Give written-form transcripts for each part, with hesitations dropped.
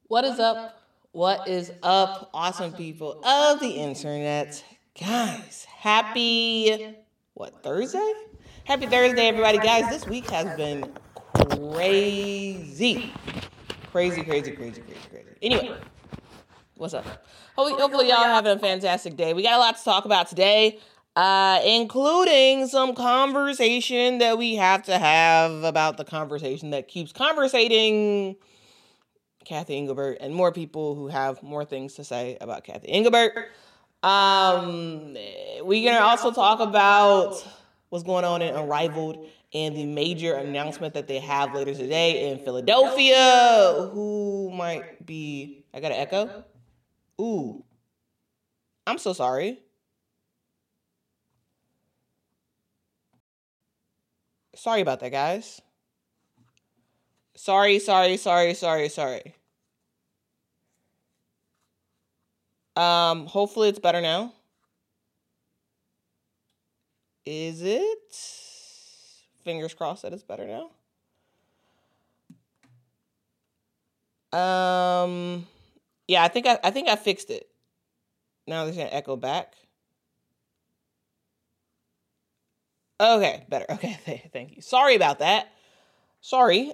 What is up? What is up, awesome people of the internet? Guys, happy, Thursday? Happy Thursday, everybody. Guys, this week has been crazy. Crazy, crazy, crazy, crazy, crazy. Anyway, what's up? Hopefully y'all having a fantastic day. We got a lot to talk about today, including some conversation that we have to have about the conversation that keeps conversating Kathy Engelbert and more people who have more things to say about Kathy Engelbert. We're gonna also talk about what's going on in Unrivaled and the major announcement that they have later today in Philadelphia. Who might be? I got an echo. Ooh, I'm so sorry. Sorry about that, guys. Sorry. Hopefully it's better now. Is it? Fingers crossed that it's better now. Yeah, I think I fixed it. Now there's gonna echo back. Okay, better. Okay, thank you. Sorry about that. Sorry.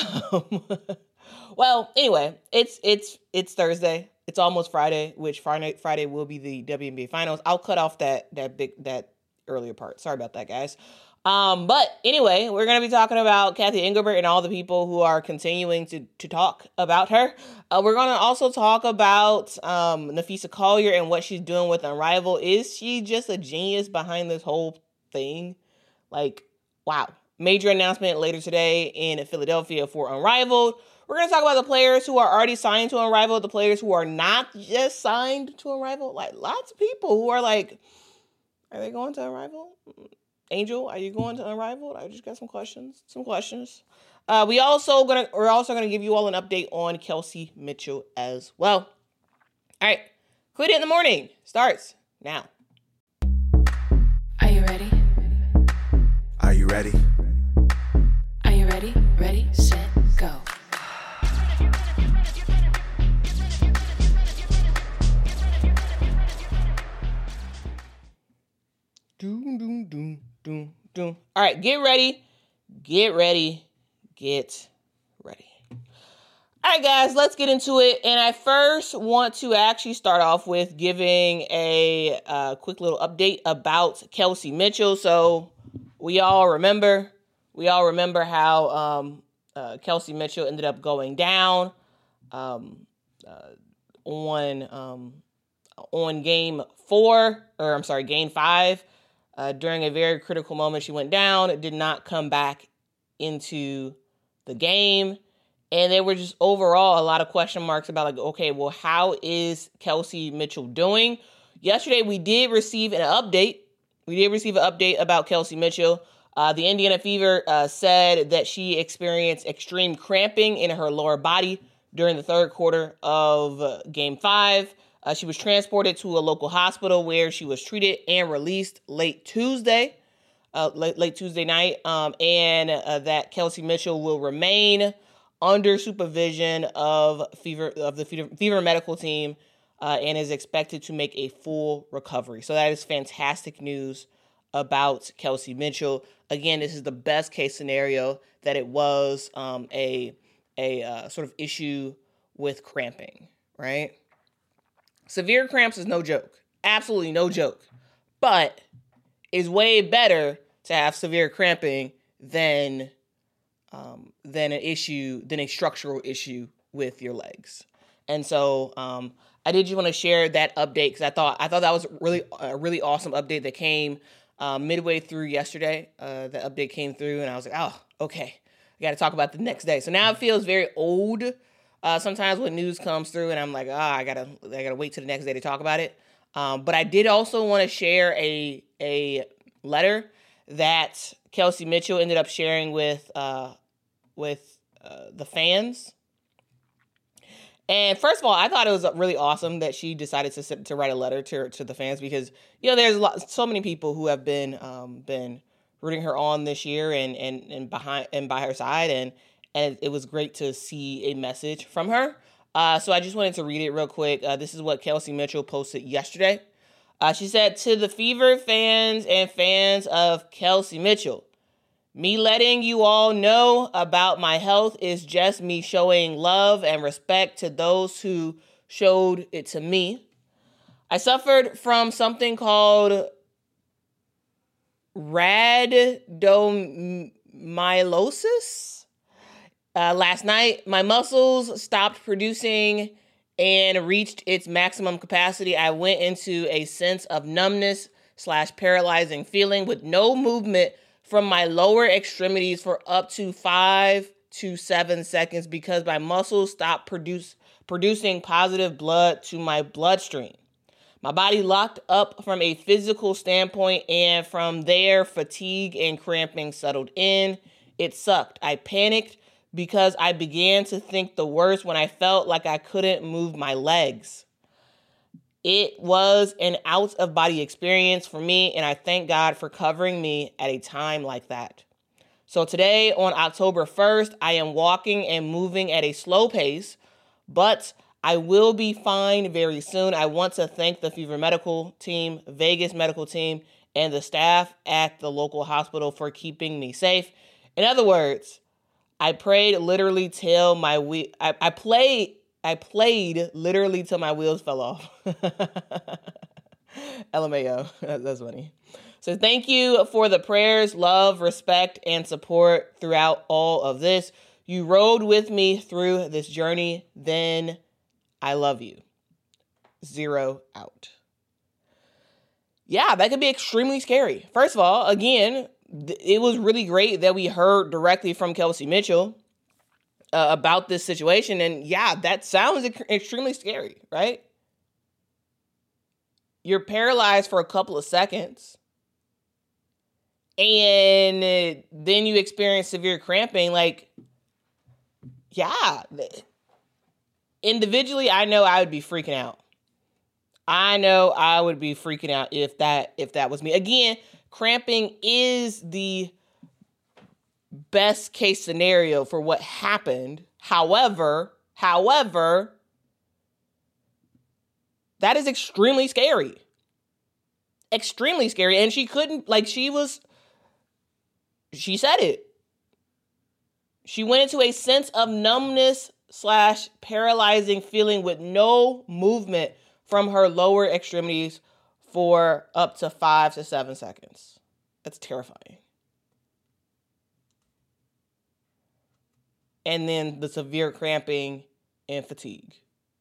Well, anyway, it's Thursday. It's almost Friday, which Friday will be the WNBA finals. I'll cut off that earlier part. Sorry about that, guys. But anyway, we're going to be talking about Kathy Engelbert and all the people who are continuing to talk about her. We're going to also talk about Napheesa Collier and what she's doing with Unrivaled. Is she just a genius behind this whole thing? Like, wow. Major announcement later today in Philadelphia for Unrivaled. We're going to talk about the players who are already signed to Unrivaled, the players who are not just signed to Unrivaled. Like, lots of people who are like, are they going to Unrivaled? Angel, are you going to Unrivaled? I just got some questions. We're also gonna give you all an update on Kelsey Mitchell as well. All right, Quit It in the Morning starts now. Are you ready? Are you ready? Are you ready? Ready, set, go. Doom, doom, doom, doom, doom. All right, get ready. All right, guys, let's get into it. And I first want to actually start off with giving a quick little update about Kelsey Mitchell. So we all remember how Kelsey Mitchell ended up going down on game 5. During a very critical moment, she went down. It did not come back into the game. And there were just overall a lot of question marks about, like, okay, well, how is Kelsey Mitchell doing? Yesterday, we did receive an update. About Kelsey Mitchell. The Indiana Fever said that she experienced extreme cramping in her lower body during the third quarter of Game 5. She was transported to a local hospital where she was treated and released late Tuesday night, and that Kelsey Mitchell will remain under supervision of the Fever medical team and is expected to make a full recovery. So that is fantastic news about Kelsey Mitchell. Again, this is the best case scenario that it was a sort of issue with cramping, right? Severe cramps is no joke. Absolutely no joke. But it's way better to have severe cramping than a structural issue with your legs. And so I did just want to share that update because I thought that was a really awesome update that came midway through yesterday. The update came through and I was like, oh, okay. I got to talk about the next day. So now it feels very old. Sometimes when news comes through and I'm like, I gotta wait till the next day to talk about it. But I did also want to share a letter that Kelsey Mitchell ended up sharing with the fans. And first of all, I thought it was really awesome that she decided to write a letter to the fans because, there's so many people who have been rooting her on this year and by her side, and it was great to see a message from her. So I just wanted to read it real quick. This is what Kelsey Mitchell posted yesterday. She said, to the Fever fans and fans of Kelsey Mitchell, me letting you all know about my health is just me showing love and respect to those who showed it to me. I suffered from something called rhabdomyolysis. Last night, my muscles stopped producing and reached its maximum capacity. I went into a sense of numbness / paralyzing feeling with no movement from my lower extremities for up to 5 to 7 seconds because my muscles stopped producing positive blood to my bloodstream. My body locked up from a physical standpoint, and from there, fatigue and cramping settled in. It sucked. I panicked because I began to think the worst when I felt like I couldn't move my legs. It was an out-of-body experience for me, and I thank God for covering me at a time like that. So today, on October 1st, I am walking and moving at a slow pace, but I will be fine very soon. I want to thank the Fever medical team, Vegas medical team, and the staff at the local hospital for keeping me safe. In other words, I played literally till my I played literally till my wheels fell off. LMAO. That's funny. So thank you for the prayers, love, respect, and support throughout all of this. You rode with me through this journey. Then I love you. 0 out. Yeah, that could be extremely scary. First of all, again, it was really great that we heard directly from Kelsey Mitchell about this situation. And yeah, that sounds extremely scary, right? You're paralyzed for a couple of seconds, and then you experience severe cramping. Like, yeah. Individually, I know I would be freaking out. I know I would be freaking out if that was me. Again, cramping is the best case scenario for what happened. However, that is extremely scary. Extremely scary. And she said it. She went into a sense of numbness / paralyzing feeling with no movement from her lower extremities for up to 5 to 7 seconds. That's terrifying. And then the severe cramping and fatigue.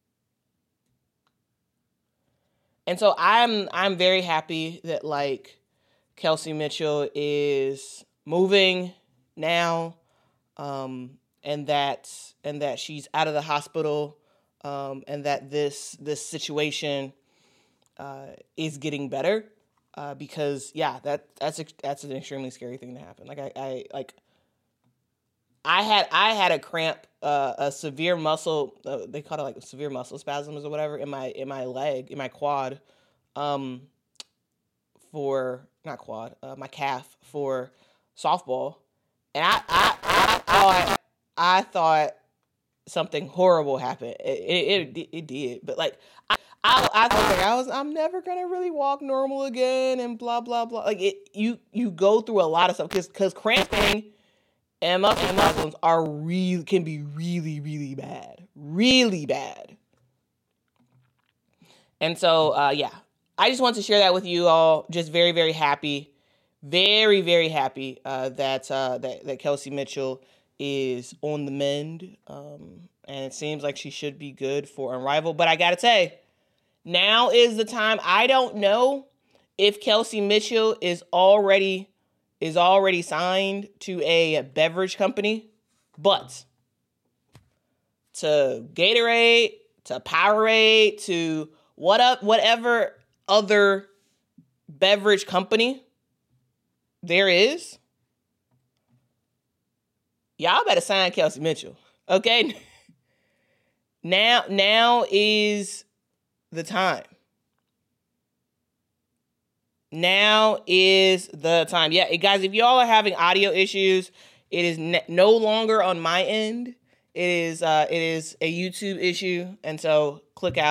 And so I'm very happy that Kelsey Mitchell is moving now, and that she's out of the hospital, and that this situation is getting better, because yeah, that's an extremely scary thing to happen. I had a cramp, a severe muscle, they call it severe muscle spasms or whatever in my leg, in my quad, my calf for softball, and I thought something horrible happened. It did, but I'm never gonna really walk normal again, and blah blah blah. You go through a lot of stuff because cramping and muscle spasms can be really, really bad. Really bad. And so, yeah, I just want to share that with you all. Just very, very happy. Very, very happy that Kelsey Mitchell is on the mend. And it seems like she should be good for Unrivaled. But I got to say, now is the time. I don't know if Kelsey Mitchell is already signed to a beverage company, but to Gatorade, to Powerade, to whatever other beverage company there is, y'all better sign Kelsey Mitchell, okay? Now is the time. Now is the time. Yeah, guys, if y'all are having audio issues, it is no longer on my end. It is a YouTube issue, and so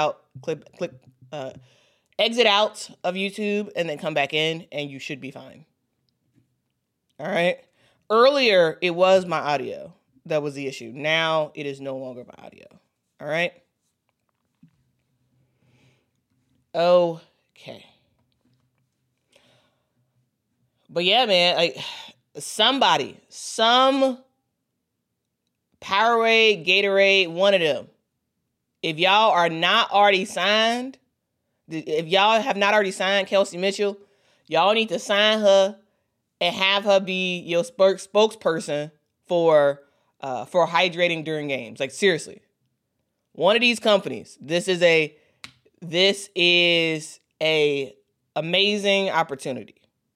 exit out of YouTube and then come back in, and you should be fine. All right. Earlier, it was my audio that was the issue. Now it is no longer my audio. All right. Okay. But yeah, man, like some Powerade, Gatorade, one of them. If y'all are not already signed, if y'all have not already signed Kelsey Mitchell, y'all need to sign her and have her be your spokesperson for hydrating during games. Like, seriously. One of these companies, this is a amazing opportunity.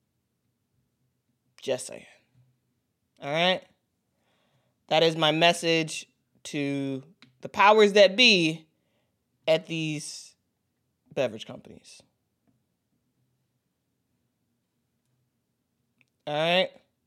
Just saying. All right? That is my message to the powers that be at these beverage companies. All right?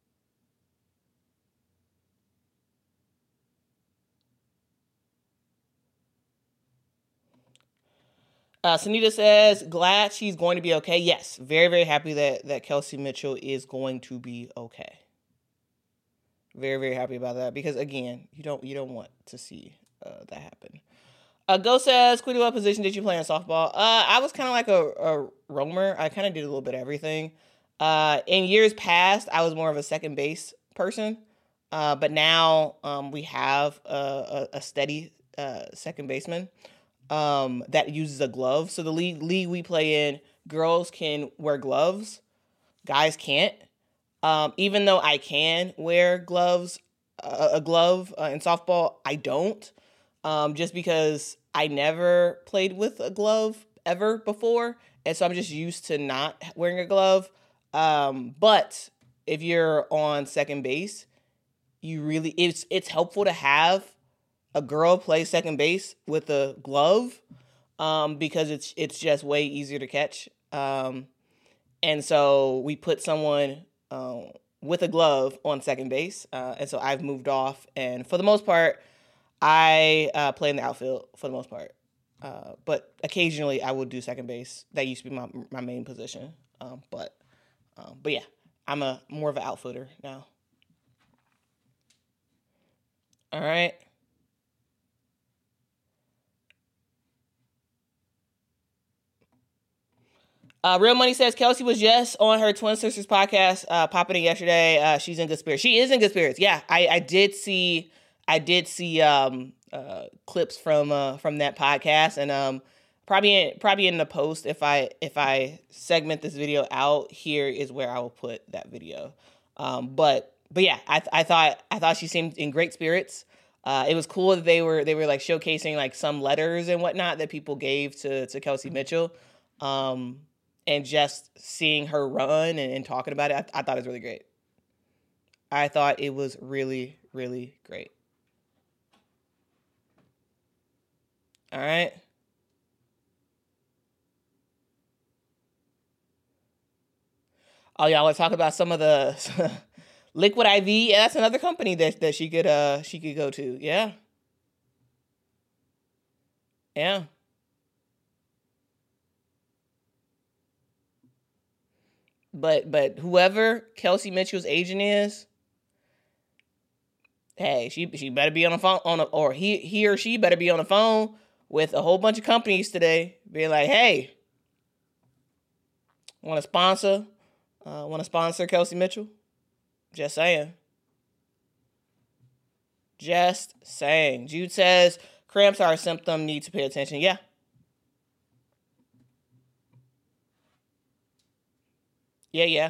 Sunita says, glad she's going to be okay. Yes, very, very happy that Kelsey Mitchell is going to be okay. Very, very happy about that because, again, you don't want to see that happen. Go says, Quiddy, what position did you play in softball? I was kind of like a roamer. I kind of did a little bit of everything. In years past, I was more of a second base person. But now we have a steady second baseman that uses a glove. So the league we play in, girls can wear gloves. Guys can't. Even though I can wear gloves, a glove in softball, I don't. Just because I never played with a glove ever before. And so I'm just used to not wearing a glove. But if you're on second base, it's helpful to have a girl play second base with a glove, because it's just way easier to catch. And so we put someone with a glove on second base. And so I've moved off. And for the most part, I play in the outfield for the most part. But occasionally I will do second base. That used to be my main position. But yeah, I'm more of an outfielder now. All right. Real Money says Kelsey was just on her Twin Sisters podcast, popping in yesterday. She's in good spirits. She is in good spirits. Yeah, I did see clips from that podcast, and probably in the post, if I segment this video out, here is where I will put that video. But yeah, I thought she seemed in great spirits. It was cool that they were like showcasing like some letters and whatnot that people gave to Kelsey Mitchell. And just seeing her run and talking about it, I thought it was really great. I thought it was really, really great. All right. Oh, y'all want to talk about some of the Liquid IV? Yeah, that's another company that she could go to. Yeah. Yeah. But whoever Kelsey Mitchell's agent is, hey, she better be on the phone or he or she better be on the phone with a whole bunch of companies today, being like, hey, want to sponsor Kelsey Mitchell? Just saying. Just saying. Jude says cramps are a symptom, need to pay attention. Yeah. Yeah.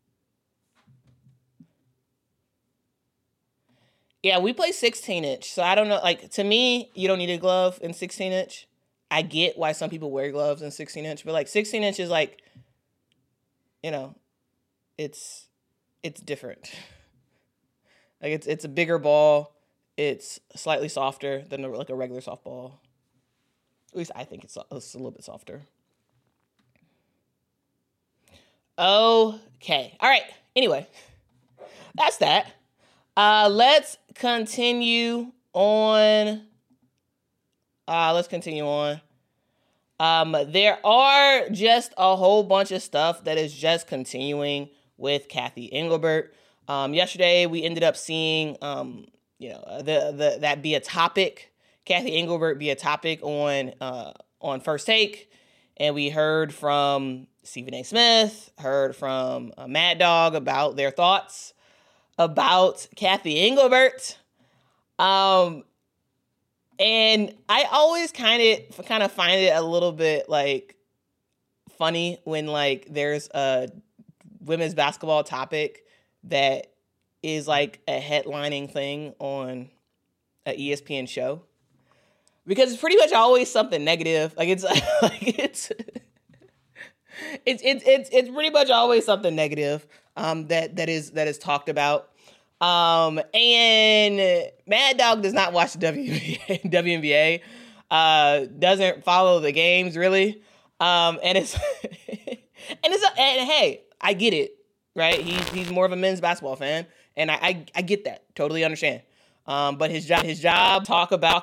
Yeah, we play 16-inch. So I don't know. Like, to me, you don't need a glove in 16-inch. I get why some people wear gloves in 16-inch. But, like, 16-inch is, like, you know, it's different. Like, it's a bigger ball. It's slightly softer than, like, a regular softball. At least I think it's a little bit softer. Okay. All right. Anyway, that's that. Let's continue on. Let's continue on. There are just a whole bunch of stuff that is just continuing with Kathy Engelbert. Yesterday we ended up seeing, that be a topic. Kathy Engelbert be a topic on First Take, and we heard from Stephen A. Smith, heard from Mad Dog about their thoughts about Kathy Engelbert. And I always kind of find it a little bit like funny when like there's a women's basketball topic that is like a headlining thing on an ESPN show, because it's pretty much always something negative. Like it's it's pretty much always something negative that is talked about. And Mad Dog does not watch the WNBA, doesn't follow the games really. And hey, I get it, right? He's more of a men's basketball fan, and I get that, totally understand. But his job talk about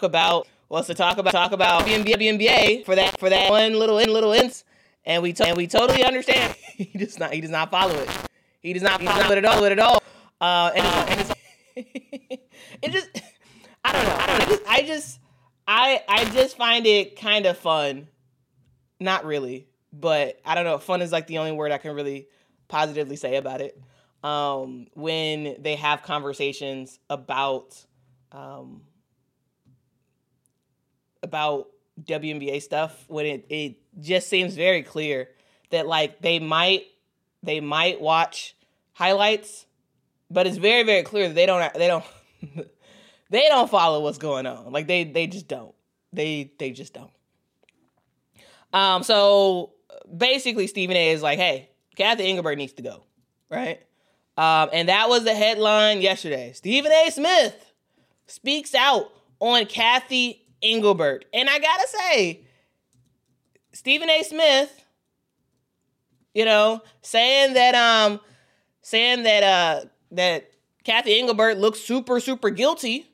WNBA for that one little instance, and we totally understand. He does not follow it. He does not follow it at all. And it just, I don't know. I just find it kind of fun. Not really, but I don't know. Fun is like the only word I can really positively say about it. When they have conversations about WNBA stuff, when it just seems very clear that like they might watch highlights, but it's very, very clear that they don't they don't follow what's going on. Like they just don't. They just don't. So basically Stephen A is like, hey, Kathy Engelbert needs to go, right? And that was the headline yesterday. Stephen A. Smith speaks out on Kathy Engelbert. And I gotta say, Stephen A. Smith, saying that Kathy Engelbert looks super, super guilty,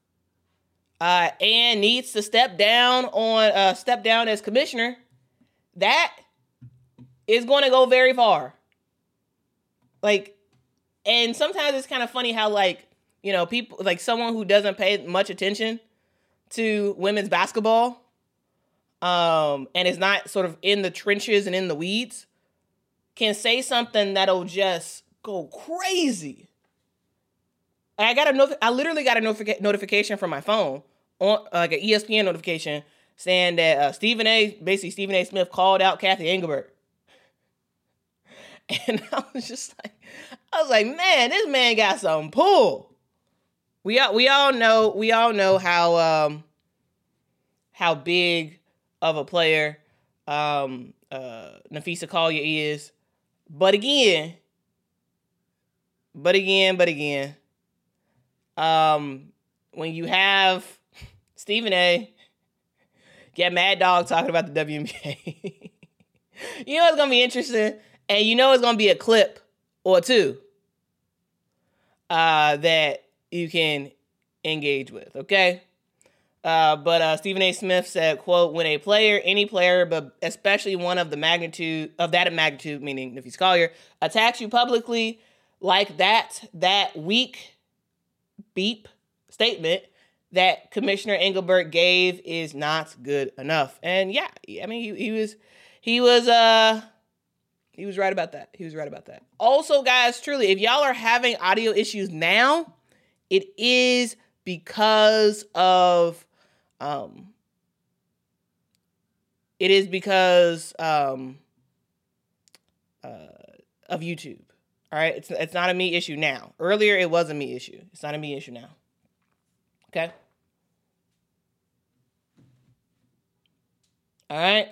and needs to step down as commissioner. That is going to go very far. Like, and sometimes it's kind of funny how people, like someone who doesn't pay much attention to women's basketball, and is not sort of in the trenches and in the weeds, can say something that'll just go crazy. I literally got a notification from my phone, on like an ESPN notification, saying that Stephen A. Smith called out Kathy Engelbert. And I was like, man, this man got some pull. We all know how big of a player Napheesa Collier is. But again, when you have Stephen A. get Mad Dog talking about the WNBA, it's gonna be interesting, and it's gonna be a clip or two that you can engage with. Okay. But Stephen A. Smith said, quote, when any player, but especially one of that magnitude, meaning Napheesa Collier, attacks you publicly like that weak beep statement that Commissioner Engelbert gave is not good enough. And yeah, I mean, he was right about that. He was right about that. Also, guys, truly, if y'all are having audio issues now, it is because of YouTube. All right, it's not a me issue now. Earlier, it was a me issue. It's not a me issue now. Okay. All right.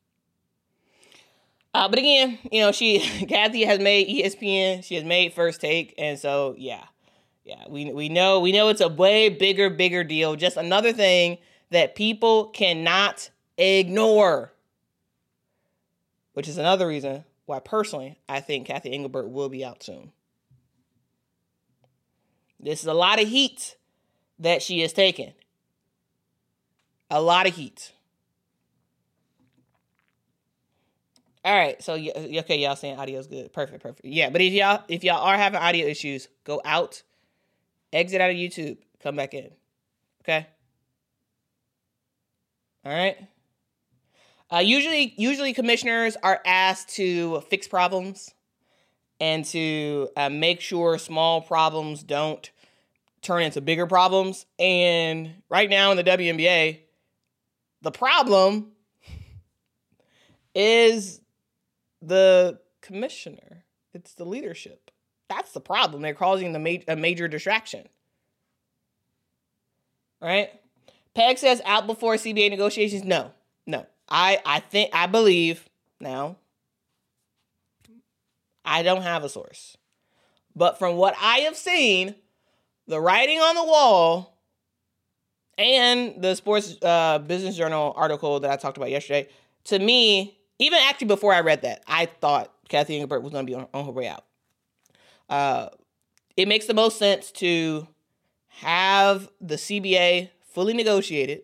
But again, Kathy has made ESPN. She has made First Take, and so yeah, we know it's a way bigger deal. Just another thing that people cannot ignore, which is another reason why personally I think Kathy Engelbert will be out soon. This is a lot of heat that she has taken. A lot of heat. All right, so okay, y'all saying audio's good. Perfect. Yeah, but if y'all are having audio issues, go out, exit out of YouTube, come back in. Okay? All right? Usually commissioners are asked to fix problems and to make sure small problems don't turn into bigger problems. And right now in the WNBA, the problem is the commissioner. It's the leadership. That's the problem. They're causing a major distraction. Right? Peg says out before CBA negotiations. No. I believe now. I don't have a source. But from what I have seen, the writing on the wall and the Sports Business Journal article that I talked about yesterday, to me, even actually before I read that, I thought Cathy Engelbert was going to be on her way out. It makes the most sense to have the CBA fully negotiated,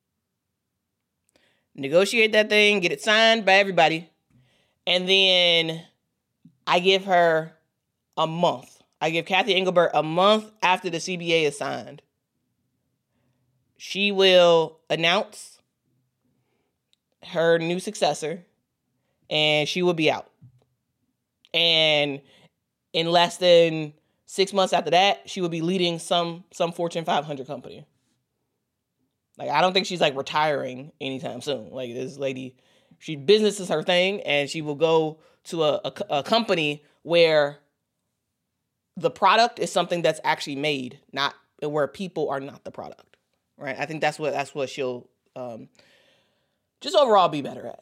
negotiate that thing, get it signed by everybody, and then I give her a month. I give Cathy Engelbert a month after the CBA is signed. She will announce her new successor, and she will be out. And in less than 6 months after that, she will be leading some Fortune 500 company. Like, I don't think she's like retiring anytime soon. Like, this lady, business is her thing, and she will go to a company where the product is something that's actually made, not where people are not the product, right? I think that's what she'll just overall be better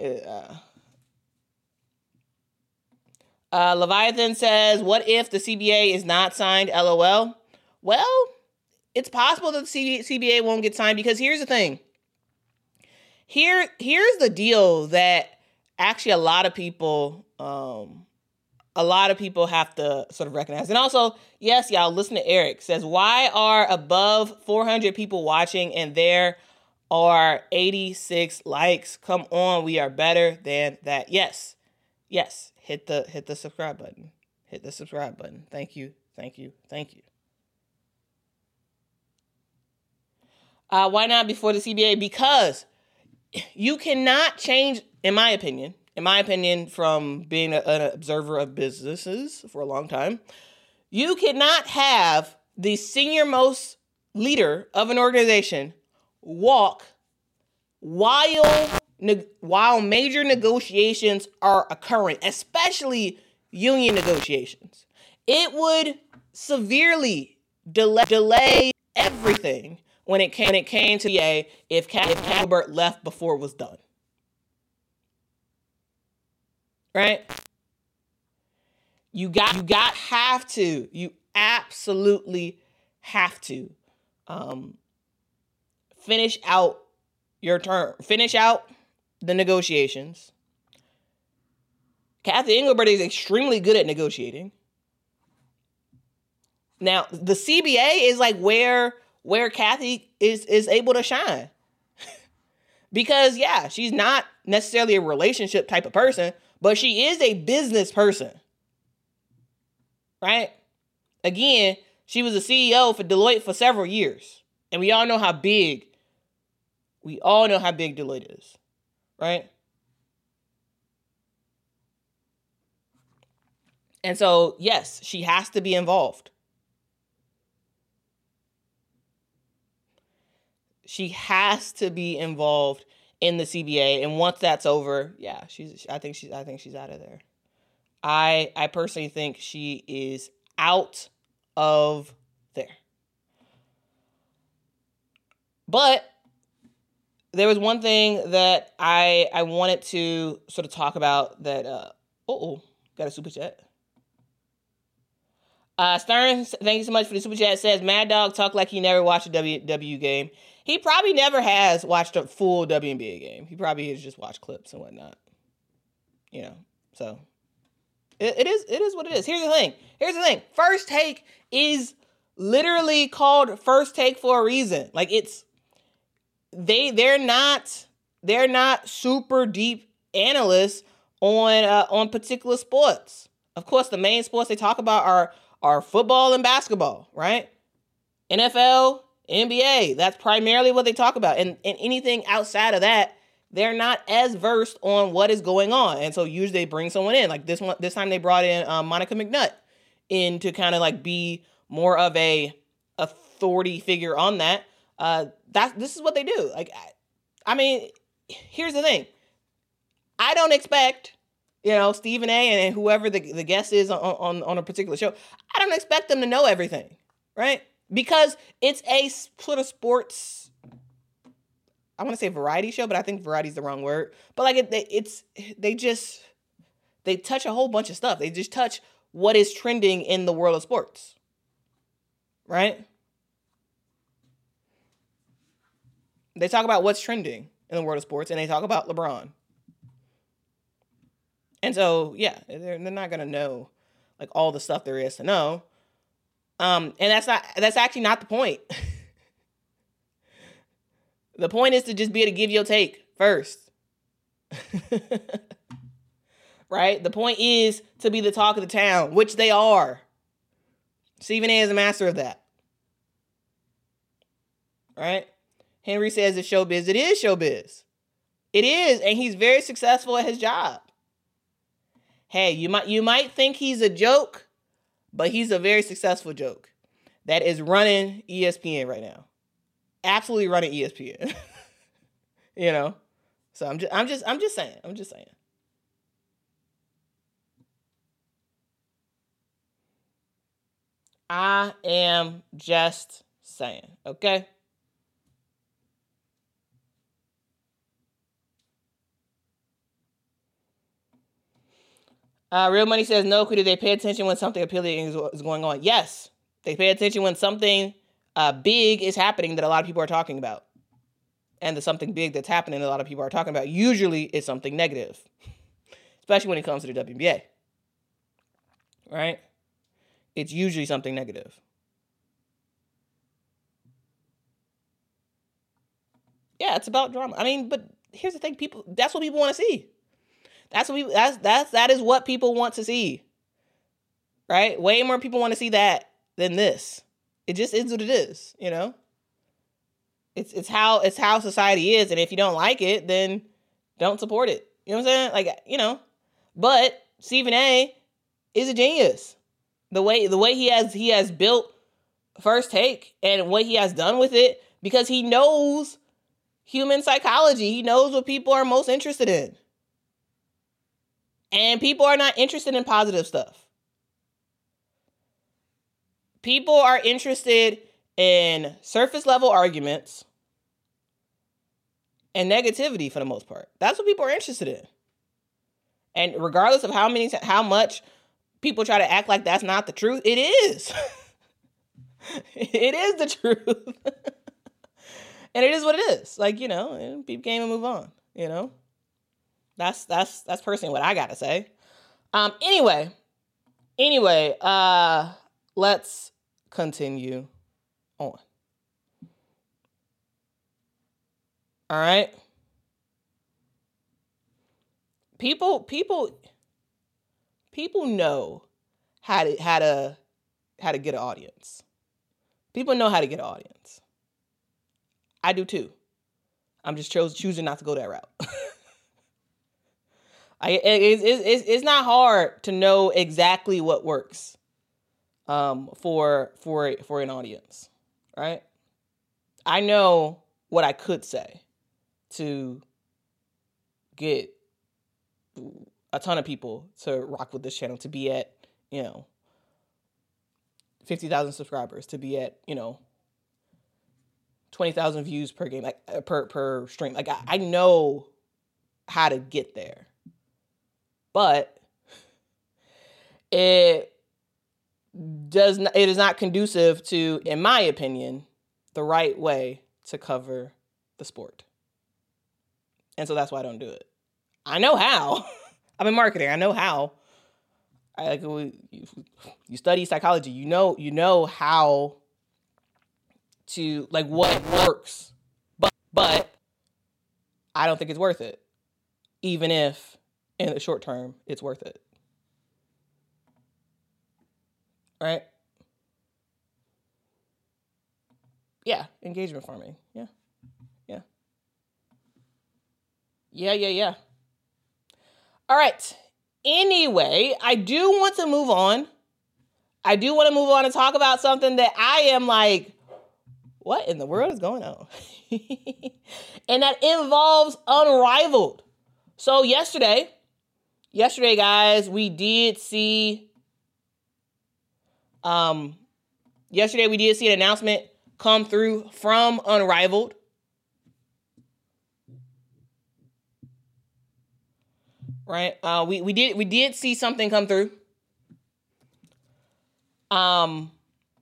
at. Leviathan says, what if the CBA is not signed, LOL? Well, it's possible that the CBA won't get signed because here's the thing. Here's the deal that actually a lot of people have to sort of recognize. And also, yes, y'all, listen to Eric. Says, why are above 400 people watching and there are 86 likes? Come on, we are better than that. Yes. Hit the subscribe button. Hit the subscribe button. Thank you. Why not before the CBA? Because you cannot change, in my opinion, from being an observer of businesses for a long time, you cannot have the senior most leader of an organization walk while major negotiations are occurring, especially union negotiations. It would severely delay everything when it came to the if Engelbert left before it was done. Right? You absolutely have to finish out your term. Finish out the negotiations. Cathy Engelbert is extremely good at negotiating. Now, the CBA is like where Cathy is able to shine. Because, yeah, she's not necessarily a relationship type of person, but she is a business person. Right? Again, she was a CEO for Deloitte for several years. And we all know how big Deloitte is. Right? And so, yes, she has to be involved. She has to be involved in the CBA, and once that's over, yeah, I think she's out of there. I personally think she is out of there. But there was one thing that I wanted to sort of talk about that. Got a super chat. Stern, thank you so much for the super chat. Says Mad Dog talk like he never watched a WW game. He probably never has watched a full WNBA game. He probably has just watched clips and whatnot. You know, it is what it is. Here's the thing. First Take is literally called First Take for a reason. Like they're not super deep analysts on particular sports. Of course, the main sports they talk about are football and basketball, right? NFL, NBA, that's primarily what they talk about. And anything outside of that, they're not as versed on what is going on. And so usually they bring someone in. Like this time they brought in Monica McNutt in to kind of like be more of a authority figure on that. This is what they do. Like, I mean, here's the thing. I don't expect, Stephen A. and whoever the guest is on a particular show, I don't expect them to know everything, right? Because it's a sort of sports, I want to say variety show, but I think variety is the wrong word. But like they touch a whole bunch of stuff. They just touch what is trending in the world of sports, right? They talk about what's trending in the world of sports, and they talk about LeBron. And so, yeah, they're not gonna know like all the stuff there is to know. And that's actually not the point. The point is to just be able to give your take first. Right? The point is to be the talk of the town, which they are. Stephen A. is a master of that. Right? Henry says it's showbiz. It is showbiz. It is, and he's very successful at his job. Hey, you might think he's a joke, but he's a very successful joke that is running ESPN right now. Absolutely running ESPN. So I'm just saying. I am just saying, okay? Real Money says, no, do they pay attention when something appealing is going on? Yes, they pay attention when something big is happening that a lot of people are talking about. And the something big that's happening that a lot of people are talking about usually is something negative, especially when it comes to the WNBA. Right? It's usually something negative. Yeah, it's about drama. I mean, but here's the thing, that's what people want to see. That is what people want to see. Right? Way more people want to see that than this. It just is what it is, It's how society is, and if you don't like it, then don't support it. You know what I'm saying? Like, but Stephen A. is a genius. The way he has built First Take and what he has done with it, because he knows human psychology. He knows what people are most interested in. And people are not interested in positive stuff. People are interested in surface level arguments and negativity for the most part. That's what people are interested in. And regardless of how much people try to act like that's not the truth, it is. It is the truth. And it is what it is. Like, peep game and move on, That's personally what I got to say. Anyway, let's continue on. All right. People know how to get an audience. People know how to get an audience. I do too. I'm just choosing not to go that route. It's not hard to know exactly what works for an audience, right? I know what I could say to get a ton of people to rock with this channel, to be at 50,000 subscribers, to be at 20,000 views per game, like per stream. Like I know how to get there. But it is not conducive to, in my opinion, the right way to cover the sport. And so that's why I don't do it. I know how. I'm in marketing. I know how. You study psychology. You know how to like what works. But I don't think it's worth it, even if in the short term it's worth it. Right? Yeah, engagement farming. Yeah. All right. Anyway, I do want to move on. And talk about something that I am like, what in the world is going on? And that involves Unrivaled. So yesterday, guys, we did see an announcement come through from Unrivaled. Right? We did see something come through. And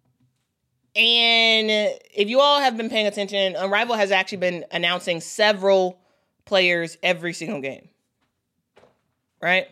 if you all have been paying attention, Unrivaled has actually been announcing several players every single game. Right?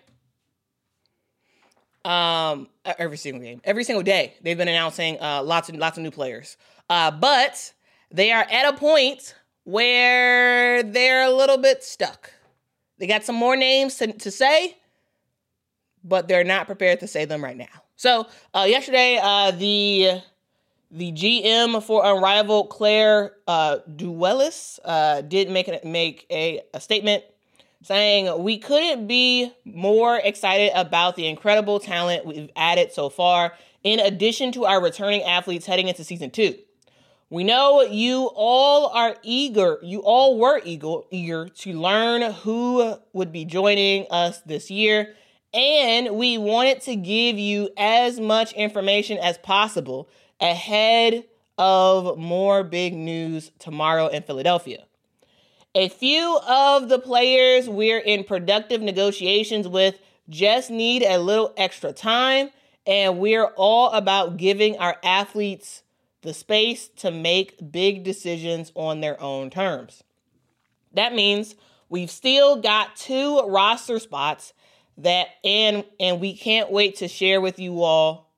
Every single game. Every single day. They've been announcing lots of new players. But they are at a point where they're a little bit stuck. They got some more names to say, but they're not prepared to say them right now. So yesterday, the GM for Unrivaled, Claire Duellis, did make a statement saying, "We couldn't be more excited about the incredible talent we've added so far, in addition to our returning athletes heading into season 2. We know you all were eager to learn who would be joining us this year, and we wanted to give you as much information as possible ahead of more big news tomorrow in Philadelphia. A few of the players we're in productive negotiations with just need a little extra time, and we're all about giving our athletes the space to make big decisions on their own terms. That means we've still got 2 roster spots and we can't wait to share with you all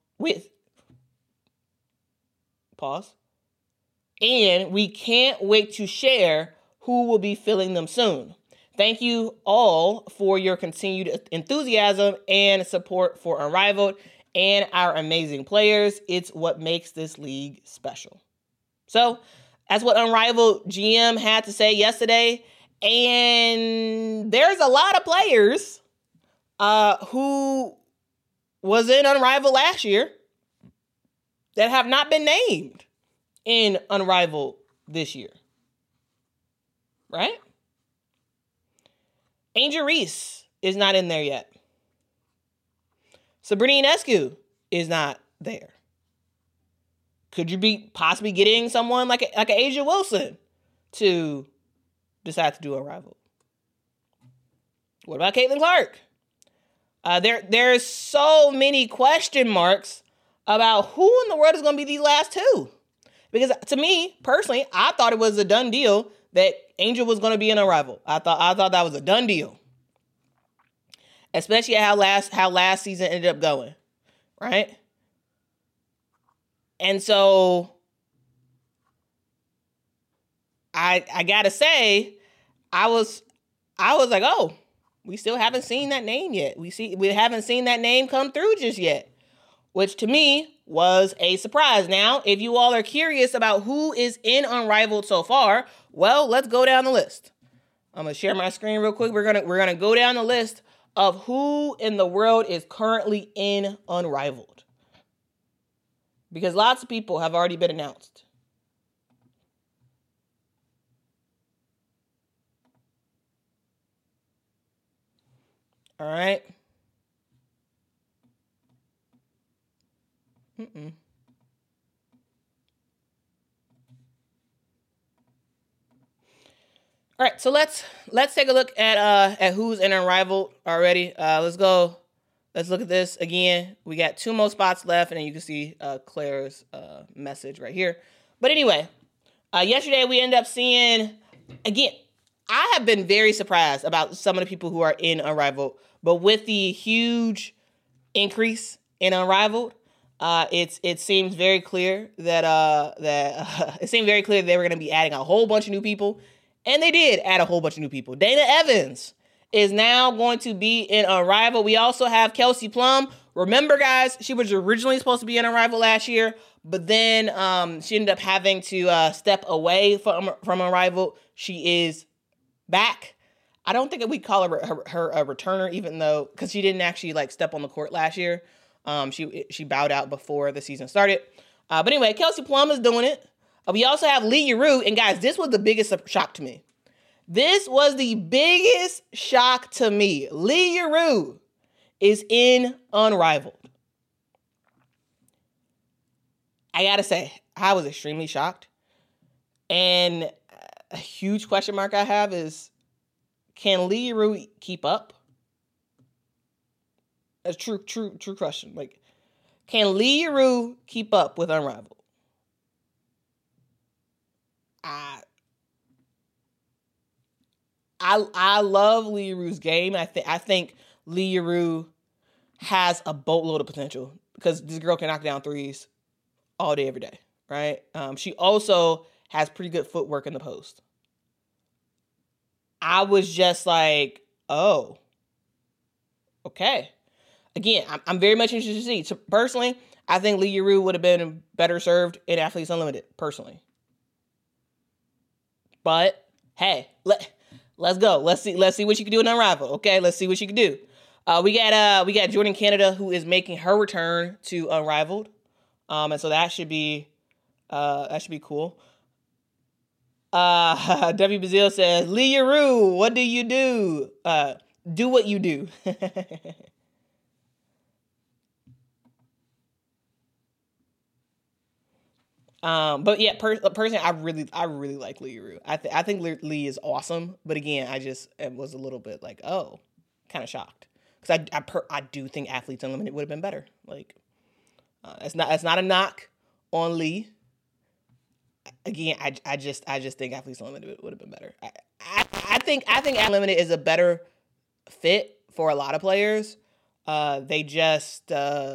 And we can't wait to share who will be filling them soon. Thank you all for your continued enthusiasm and support for Unrivaled and our amazing players. It's what makes this league special." So that's what Unrivaled GM had to say yesterday. And there's a lot of players who was in Unrivaled last year that have not been named in Unrivaled this year. Right? Angel Reese is not in there yet. Sabrina Ionescu is not there. Could you be possibly getting someone like a Asia Wilson to decide to do Unrivaled? What about Caitlin Clark? There's so many question marks about who in the world is going to be these last 2. Because to me, personally, I thought it was a done deal that Angel was going to be in Unrivaled. I thought that was a done deal. Especially how last season ended up going. Right? And so I gotta say, I was like, oh, we still haven't seen that name yet. We haven't seen that name come through just yet, which to me was a surprise. Now, if you all are curious about who is in Unrivaled so far, well, let's go down the list. I'm gonna share my screen real quick. We're gonna go down the list of who in the world is currently in Unrivaled, because lots of people have already been announced. All right. All right, so let's take a look at who's in Unrivaled already. Let's go. Let's look at this again. We got 2 more spots left, and then you can see Claire's message right here. But anyway, yesterday we ended up seeing, again, I have been very surprised about some of the people who are in Unrivaled, but with the huge increase in Unrivaled, It seems very clear that it seemed very clear that they were going to be adding a whole bunch of new people, and they did add a whole bunch of new people. Dana Evans is now going to be in Unrivaled. We also have Kelsey Plum. Remember, guys, she was originally supposed to be in Unrivaled last year, but then she ended up having to step away from Unrivaled. She is back. I don't think we call her a returner, even though, because she didn't actually like step on the court last year. She bowed out before the season started. But anyway, Kelsey Plum is doing it. We also have Lee Yarou. And guys, this was the biggest shock to me. This was the biggest shock to me. Lee Yarou is in Unrivaled. I gotta say, I was extremely shocked. And a huge question mark I have is, can Lee Yarou keep up? That's true question. Like, can Lee Yarou keep up with Unrivaled? I love Lee Yarou's game. I think Lee Yarou has a boatload of potential because this girl can knock down threes all day, every day, right? She also has pretty good footwork in the post. I was just like, oh, okay. Again, I'm very much interested to see. So personally, I think Lee Yarou would have been better served in Athletes Unlimited, personally. But hey, let's go. Let's see what you can do in Unrivaled. Okay, let's see what you can do. We got Jordan Canada, who is making her return to Unrivaled, and so that should be cool. W. Bazile says, Lee Yarou, what do you do? Do what you do. But yeah, personally, I really like Lee Yarou. I think Lee is awesome. But again, I was a little bit like, oh, kind of shocked. Because I do think Athletes Unlimited would have been better. Like, it's not a knock on Lee. Again, I just think Athletes Unlimited would have been better. I think Athletes Unlimited is a better fit for a lot of players. They just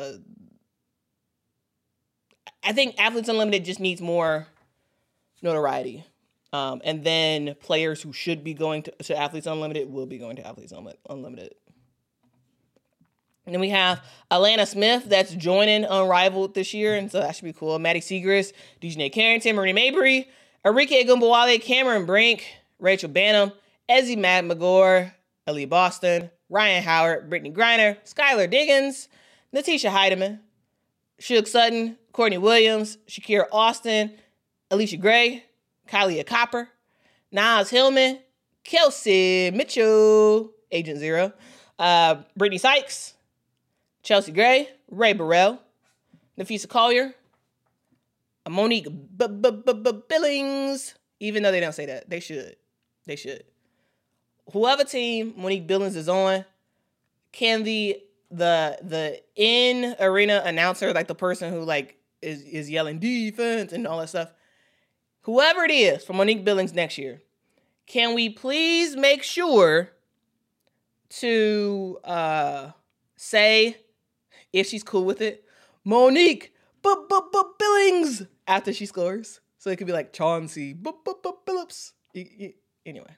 I think Athletes Unlimited just needs more notoriety. And then players who should be going to Athletes Unlimited will be going to Athletes Unlimited. And then we have Alana Smith that's joining Unrivaled this year, and so that should be cool. Maddie Segrist, Dejanay Carrington, Marie Mabry, Arike Gumbawale, Cameron Brink, Rachel Banham, Ezzy McGregor, Ali Boston, Ryan Howard, Brittany Griner, Skylar Diggins, Natisha Heidemann, Suge Sutton, Courtney Williams, Shakira Austin, Alicia Gray, Kylie Copper, Naz Hillman, Kelsey Mitchell, Agent Zero, Brittany Sykes, Chelsea Gray, Ray Burrell, Nafisa Collier, Monique Billings, even though they don't say that. They should. Whoever team Monique Billings is on, can the in-arena announcer, like the person who like is yelling defense and all that stuff, whoever it is for Monique Billings next year, can we please make sure to say, if she's cool with it, Monique Billings after she scores. So it could be like Chauncey Billups. Anyway.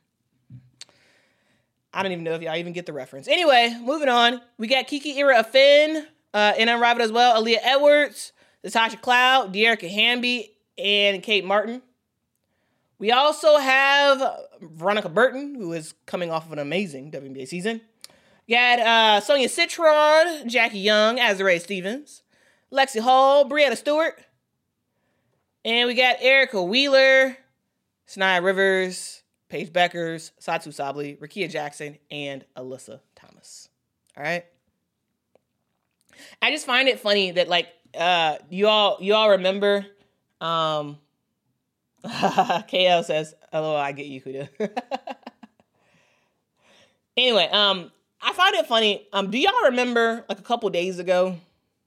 I don't even know if y'all even get the reference. Anyway, moving on. We got Kiki Ira Finn in Unrivaled as well. Aaliyah Edwards, Natasha Cloud, Dearica Hamby, and Kate Martin. We also have Veronica Burton, who is coming off of an amazing WNBA season. We got Sonia Citron, Jackie Young, Azurá Stevens, Lexi Hall, Brianna Stewart. And we got Erica Wheeler, Sanaya Rivers, Paige Beckers, Satu Sabli, Rakia Jackson, and Alyssa Thomas. All right. I just find it funny that like you all remember. KL says, "Hello, I get you, Huda." Anyway, I find it funny. Do y'all remember like a couple days ago?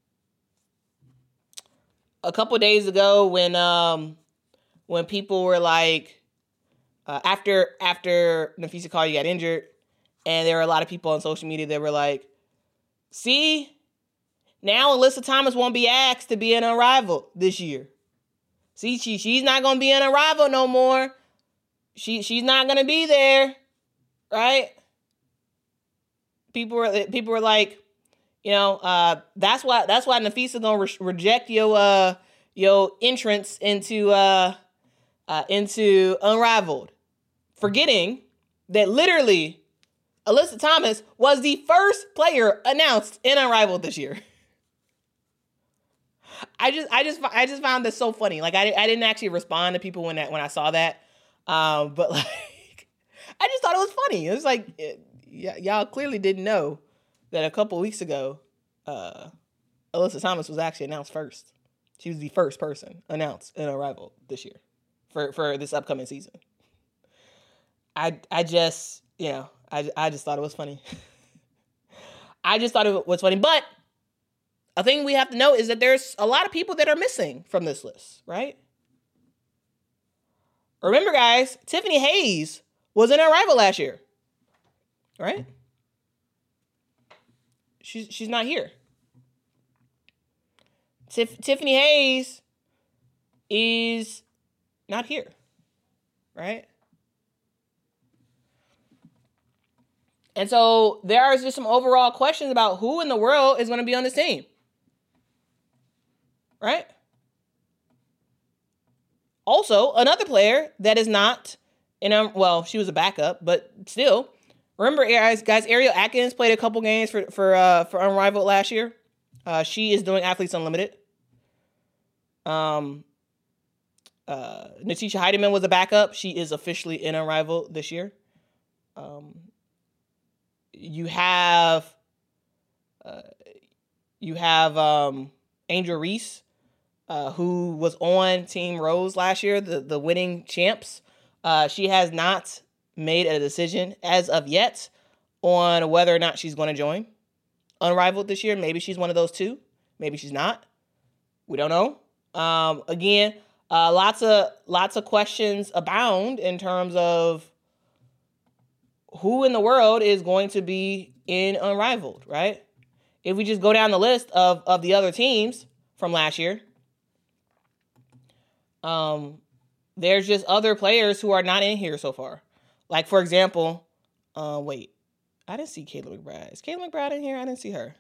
When people were like, after Nafisa Collier got injured, and there were a lot of people on social media that were like, "See, Now Alyssa Thomas won't be asked to be an Unrivaled this year. See, she's not going to be an Unrivaled no more. She's not going to be there, right? People were like, you know, that's why Nafisa gonna reject your entrance into Unrivaled, forgetting that literally Alyssa Thomas was the first player announced in Unrivaled this year. I just found this so funny. Like I didn't actually respond to people when I saw that, but like I just thought it was funny. It was like y'all clearly didn't know that a couple weeks ago, Alyssa Thomas was actually announced first. She was the first person announced in Unrivaled this year for this upcoming season. I just thought it was funny. I just thought it was funny. But a thing we have to know is that there's a lot of people that are missing from this list, right? Remember, guys, Tiffany Hayes was in Unrivaled last year, right? She's not here. Tiffany Hayes is not here, right? And so there are just some overall questions about who in the world is going to be on this team, right? Also, another player that is not well, she was a backup, but still, remember, guys, Ariel Atkins played a couple games for Unrivaled last year. She is doing Athletes Unlimited. Natisha Heidemann was a backup. She is officially in Unrivaled this year. You have Angel Reese, who was on Team Rose last year, the winning champs. She has not made a decision as of yet on whether or not she's going to join Unrivaled this year. Maybe she's one of those two. Maybe she's not. We don't know. Again, lots of questions abound in terms of who in the world is going to be in Unrivaled, right? If we just go down the list of the other teams from last year, there's just other players who are not in here so far. Like, for example, wait, I didn't see Kayla McBride. Is Kayla McBride in here? I didn't see her.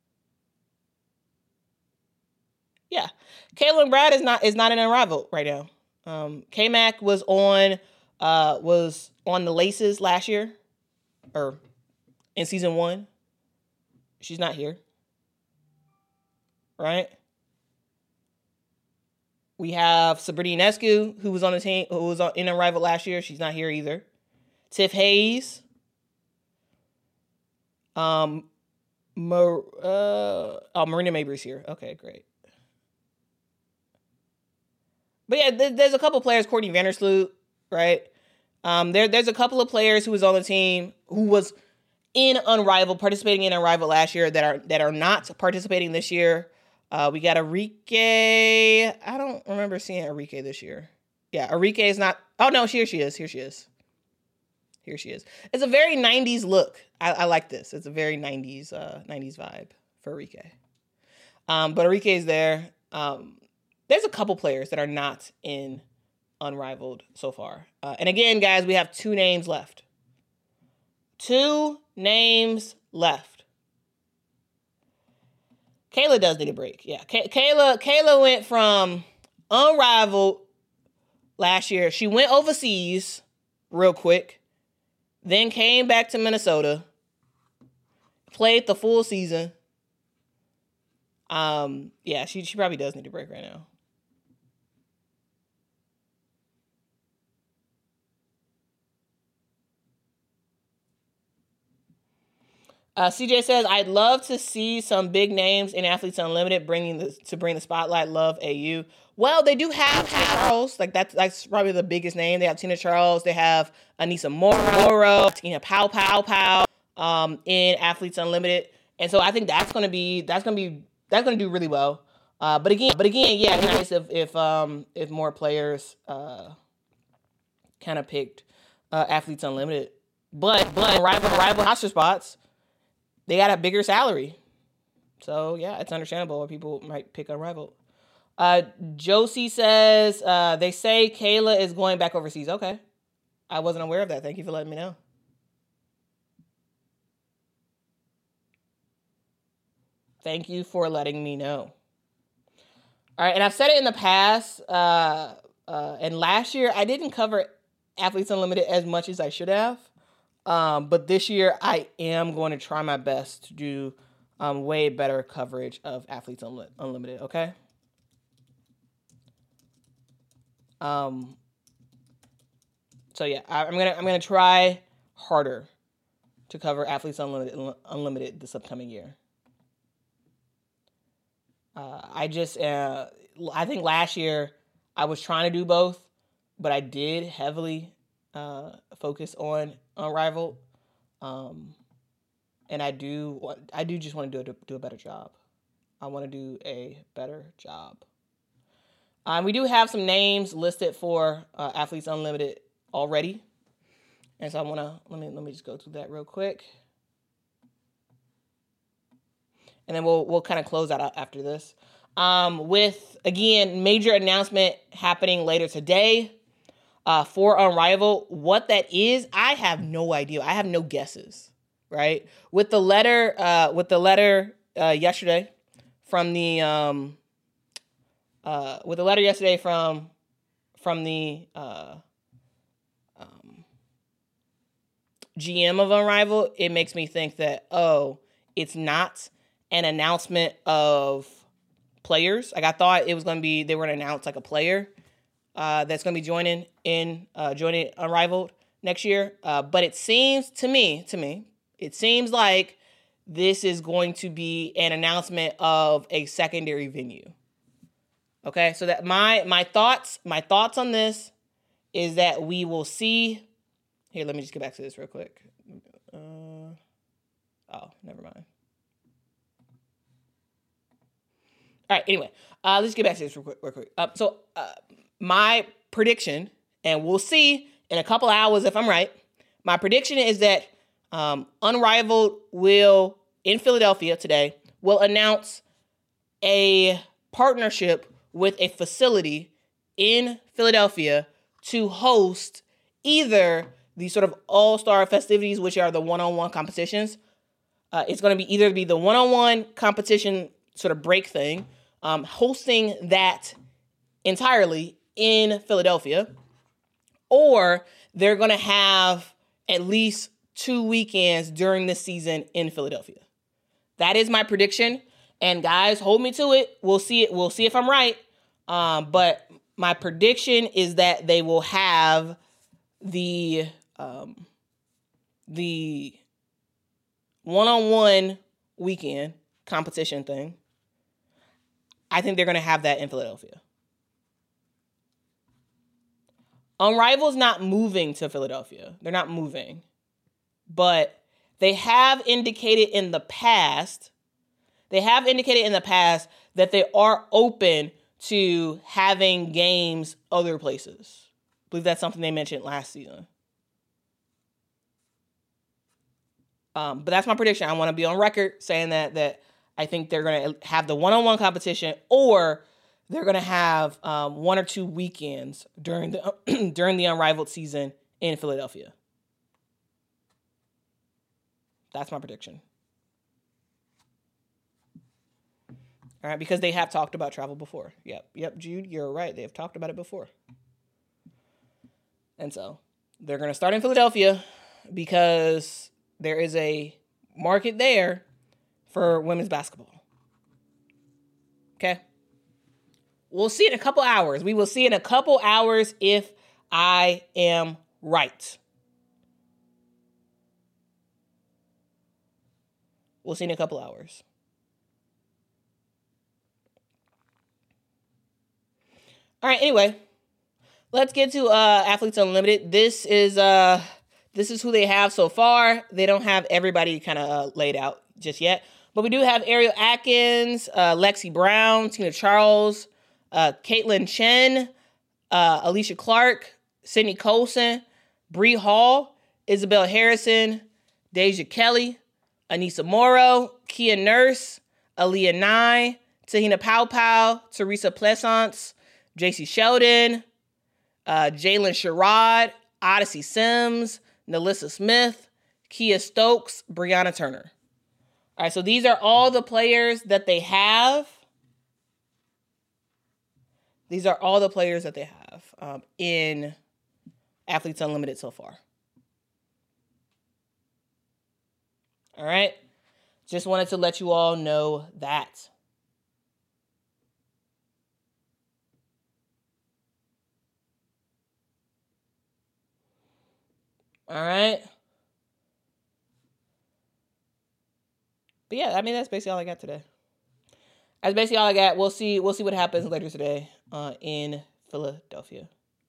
Yeah, Kayla McBride is not in Unrivaled right now. K-Mac was on the Laces last year, or in season 1. She's not here, right? We have Sabrina Ionescu, who was on the team, who was in Unrivaled last year. She's not here either. Tiff Hayes. Marina Mabry's here. Okay, great. But yeah, there's a couple players, Courtney Vandersloot, right? There's a couple of players who was on the team who was in Unrivaled, participating in Unrivaled last year that are not participating this year. We got Arike. I don't remember seeing Arike this year. Yeah, Arike is not. Oh no, here she is. It's a very 90s look. I like this. It's a very 90s vibe for Arike. But Arike is there. There's a couple players that are not in Unrivaled so far. And again, guys, we have 2 names left. 2 names left. Kayla does need a break. Yeah, Kayla went from Unrivaled last year. She went overseas real quick, then came back to Minnesota, played the full season. Yeah, she probably does need a break right now. CJ says, I'd love to see some big names in Athletes Unlimited bring the spotlight. Love AU. Well, they do have Tina Charles. Like that's probably the biggest name. They have Tina Charles. They have Anissa Moro, Tina Pow in Athletes Unlimited. And so I think that's gonna do really well. But again, yeah, it's nice if more players kind of picked Athletes Unlimited. But rival roster spots, they got a bigger salary. So, yeah, it's understandable why people might pick Unrivaled. Josie says, they say Kayla is going back overseas. Okay. I wasn't aware of that. Thank you for letting me know. Thank you for letting me know. All right, and I've said it in the past, and last year I didn't cover Athletes Unlimited as much as I should have, but this year I am going to try my best to do way better coverage of Athletes Unlimited, okay? So yeah, I'm gonna try harder to cover Athletes Unlimited this upcoming year. I think last year I was trying to do both, but I did heavily focus on Unrivaled, and I do just want to do a better job. I want to do a better job. We do have some names listed for Athletes Unlimited already, and so I want to let me just go through that real quick. And then we'll kind of close out after this. With, again, major announcement happening later today for Unrivaled. What that is, I have no idea. I have no guesses, right? With the letter yesterday from the GM of Unrivaled, it makes me think that, it's not an announcement of players. Like, I thought it was going to be, they were going to announce like a player that's going to be joining Unrivaled next year. But it seems to me, it seems like this is going to be an announcement of a secondary venue. Okay, so that my thoughts on this is that we will see. Here, let me just get back to this real quick. Never mind. All right, anyway, let's get back to this real quick. So my prediction, and we'll see in a couple hours if I'm right, my prediction is that Unrivaled will, in Philadelphia today, will announce a partnership with a facility in Philadelphia to host either the sort of all-star festivities, which are the one-on-one competitions. It's going to be either the one-on-one competition sort of break thing, hosting that entirely in Philadelphia, or they're going to have at least 2 weekends during the season in Philadelphia. That is my prediction. And guys, hold me to it. We'll see it. We'll see if I'm right. But my prediction is that they will have the one-on-one weekend competition thing. I think they're going to have that in Philadelphia. Unrivaled's not moving to Philadelphia. They're not moving. But they have indicated in the past that they are open to having games other places. I believe that's something they mentioned last season. But that's my prediction. I want to be on record saying that I think they're going to have the one-on-one competition, or they're going to have 1 or 2 weekends during the during the Unrivaled season in Philadelphia. That's my prediction. All right, because they have talked about travel before. Yep, Jude, you're right. They have talked about it before. And so they're going to start in Philadelphia because there is a market there for women's basketball. Okay? We'll see in a couple hours. We will see in a couple hours if I am right. We'll see in a couple hours. All right, anyway, let's get to Athletes Unlimited. This is who they have so far. They don't have everybody kind of laid out just yet. But we do have Ariel Atkins, Lexi Brown, Tina Charles, Caitlin Chen, Alicia Clark, Sydney Colson, Bree Hall, Isabel Harrison, Deja Kelly, Anissa Morrow, Kia Nurse, Aaliyah Nye, Tahina Pow, Teresa Pleasance, JC Sheldon, Jalen Sherrod, Odyssey Sims, Nalissa Smith, Kia Stokes, Brianna Turner. All right, so these are all the players that they have. These are all the players that they have in Athletes Unlimited so far. All right. Just wanted to let you all know that. All right. But yeah, I mean, that's basically all I got today. That's basically all I got. We'll see what happens later today in Philadelphia.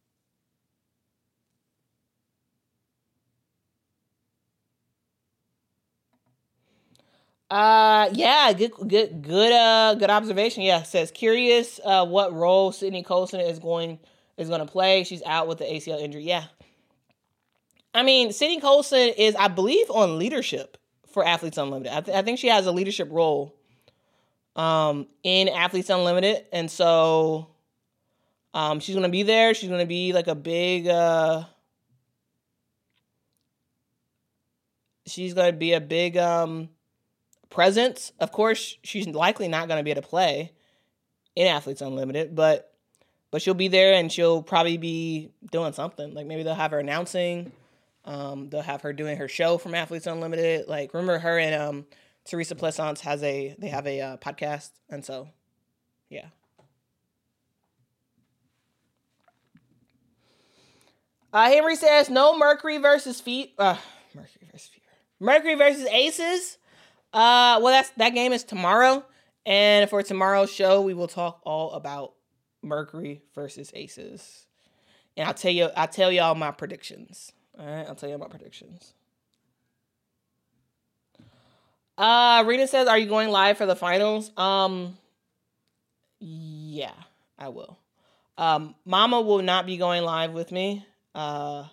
Yeah, good observation. Yeah, says curious what role Sydney Colson is going to play. She's out with the ACL injury. Yeah. I mean, Sydney Colson is, I believe, on leadership for Athletes Unlimited. I think she has a leadership role in Athletes Unlimited, and so she's going to be there. She's going to be like a big presence. Of course, she's likely not going to be able to play in Athletes Unlimited, but she'll be there and she'll probably be doing something. Like maybe they'll have her announcing. They'll have her doing her show from Athletes Unlimited. Like remember her and Teresa Pleasance have a podcast, and so yeah. Henry says no Mercury versus Mercury versus Aces. Well, that game is tomorrow, and for tomorrow's show, we will talk all about Mercury versus Aces, and I'll tell y'all my predictions. All right, I'll tell you my predictions. Rena says, "Are you going live for the finals?" Yeah, I will. Mama will not be going live with me. But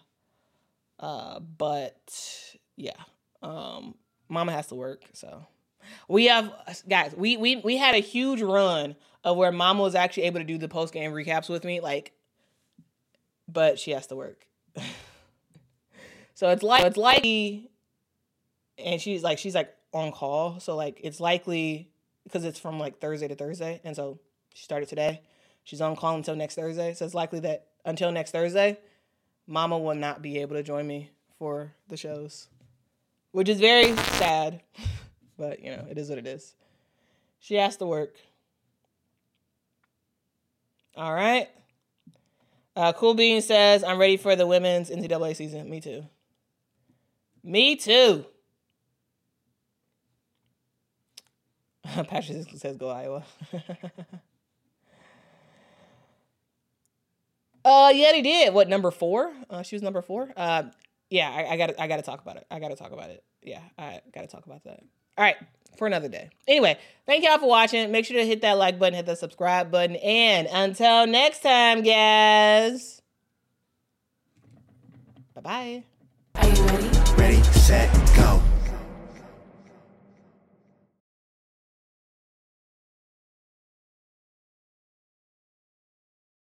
yeah. Mama has to work, so we had a huge run of where Mama was actually able to do the post game recaps with me, but she has to work. So it's likely, and she's on call, so it's likely because it's from Thursday to Thursday, and so she started today. She's on call until next Thursday, so it's likely that until next Thursday, Mama will not be able to join me for the shows. Which is very sad, but, it is what it is. She has to work. All right. Cool Bean says, I'm ready for the women's NCAA season. Me too. Me too. Patrick says, go Iowa. Yeah, they did. What, number 4? She was number 4? Yeah, I gotta talk about it. Yeah, I gotta talk about that. All right, for another day. Anyway, thank y'all for watching. Make sure to hit that like button, hit that subscribe button, and until next time, guys. Bye-bye. Are you ready? Ready, set,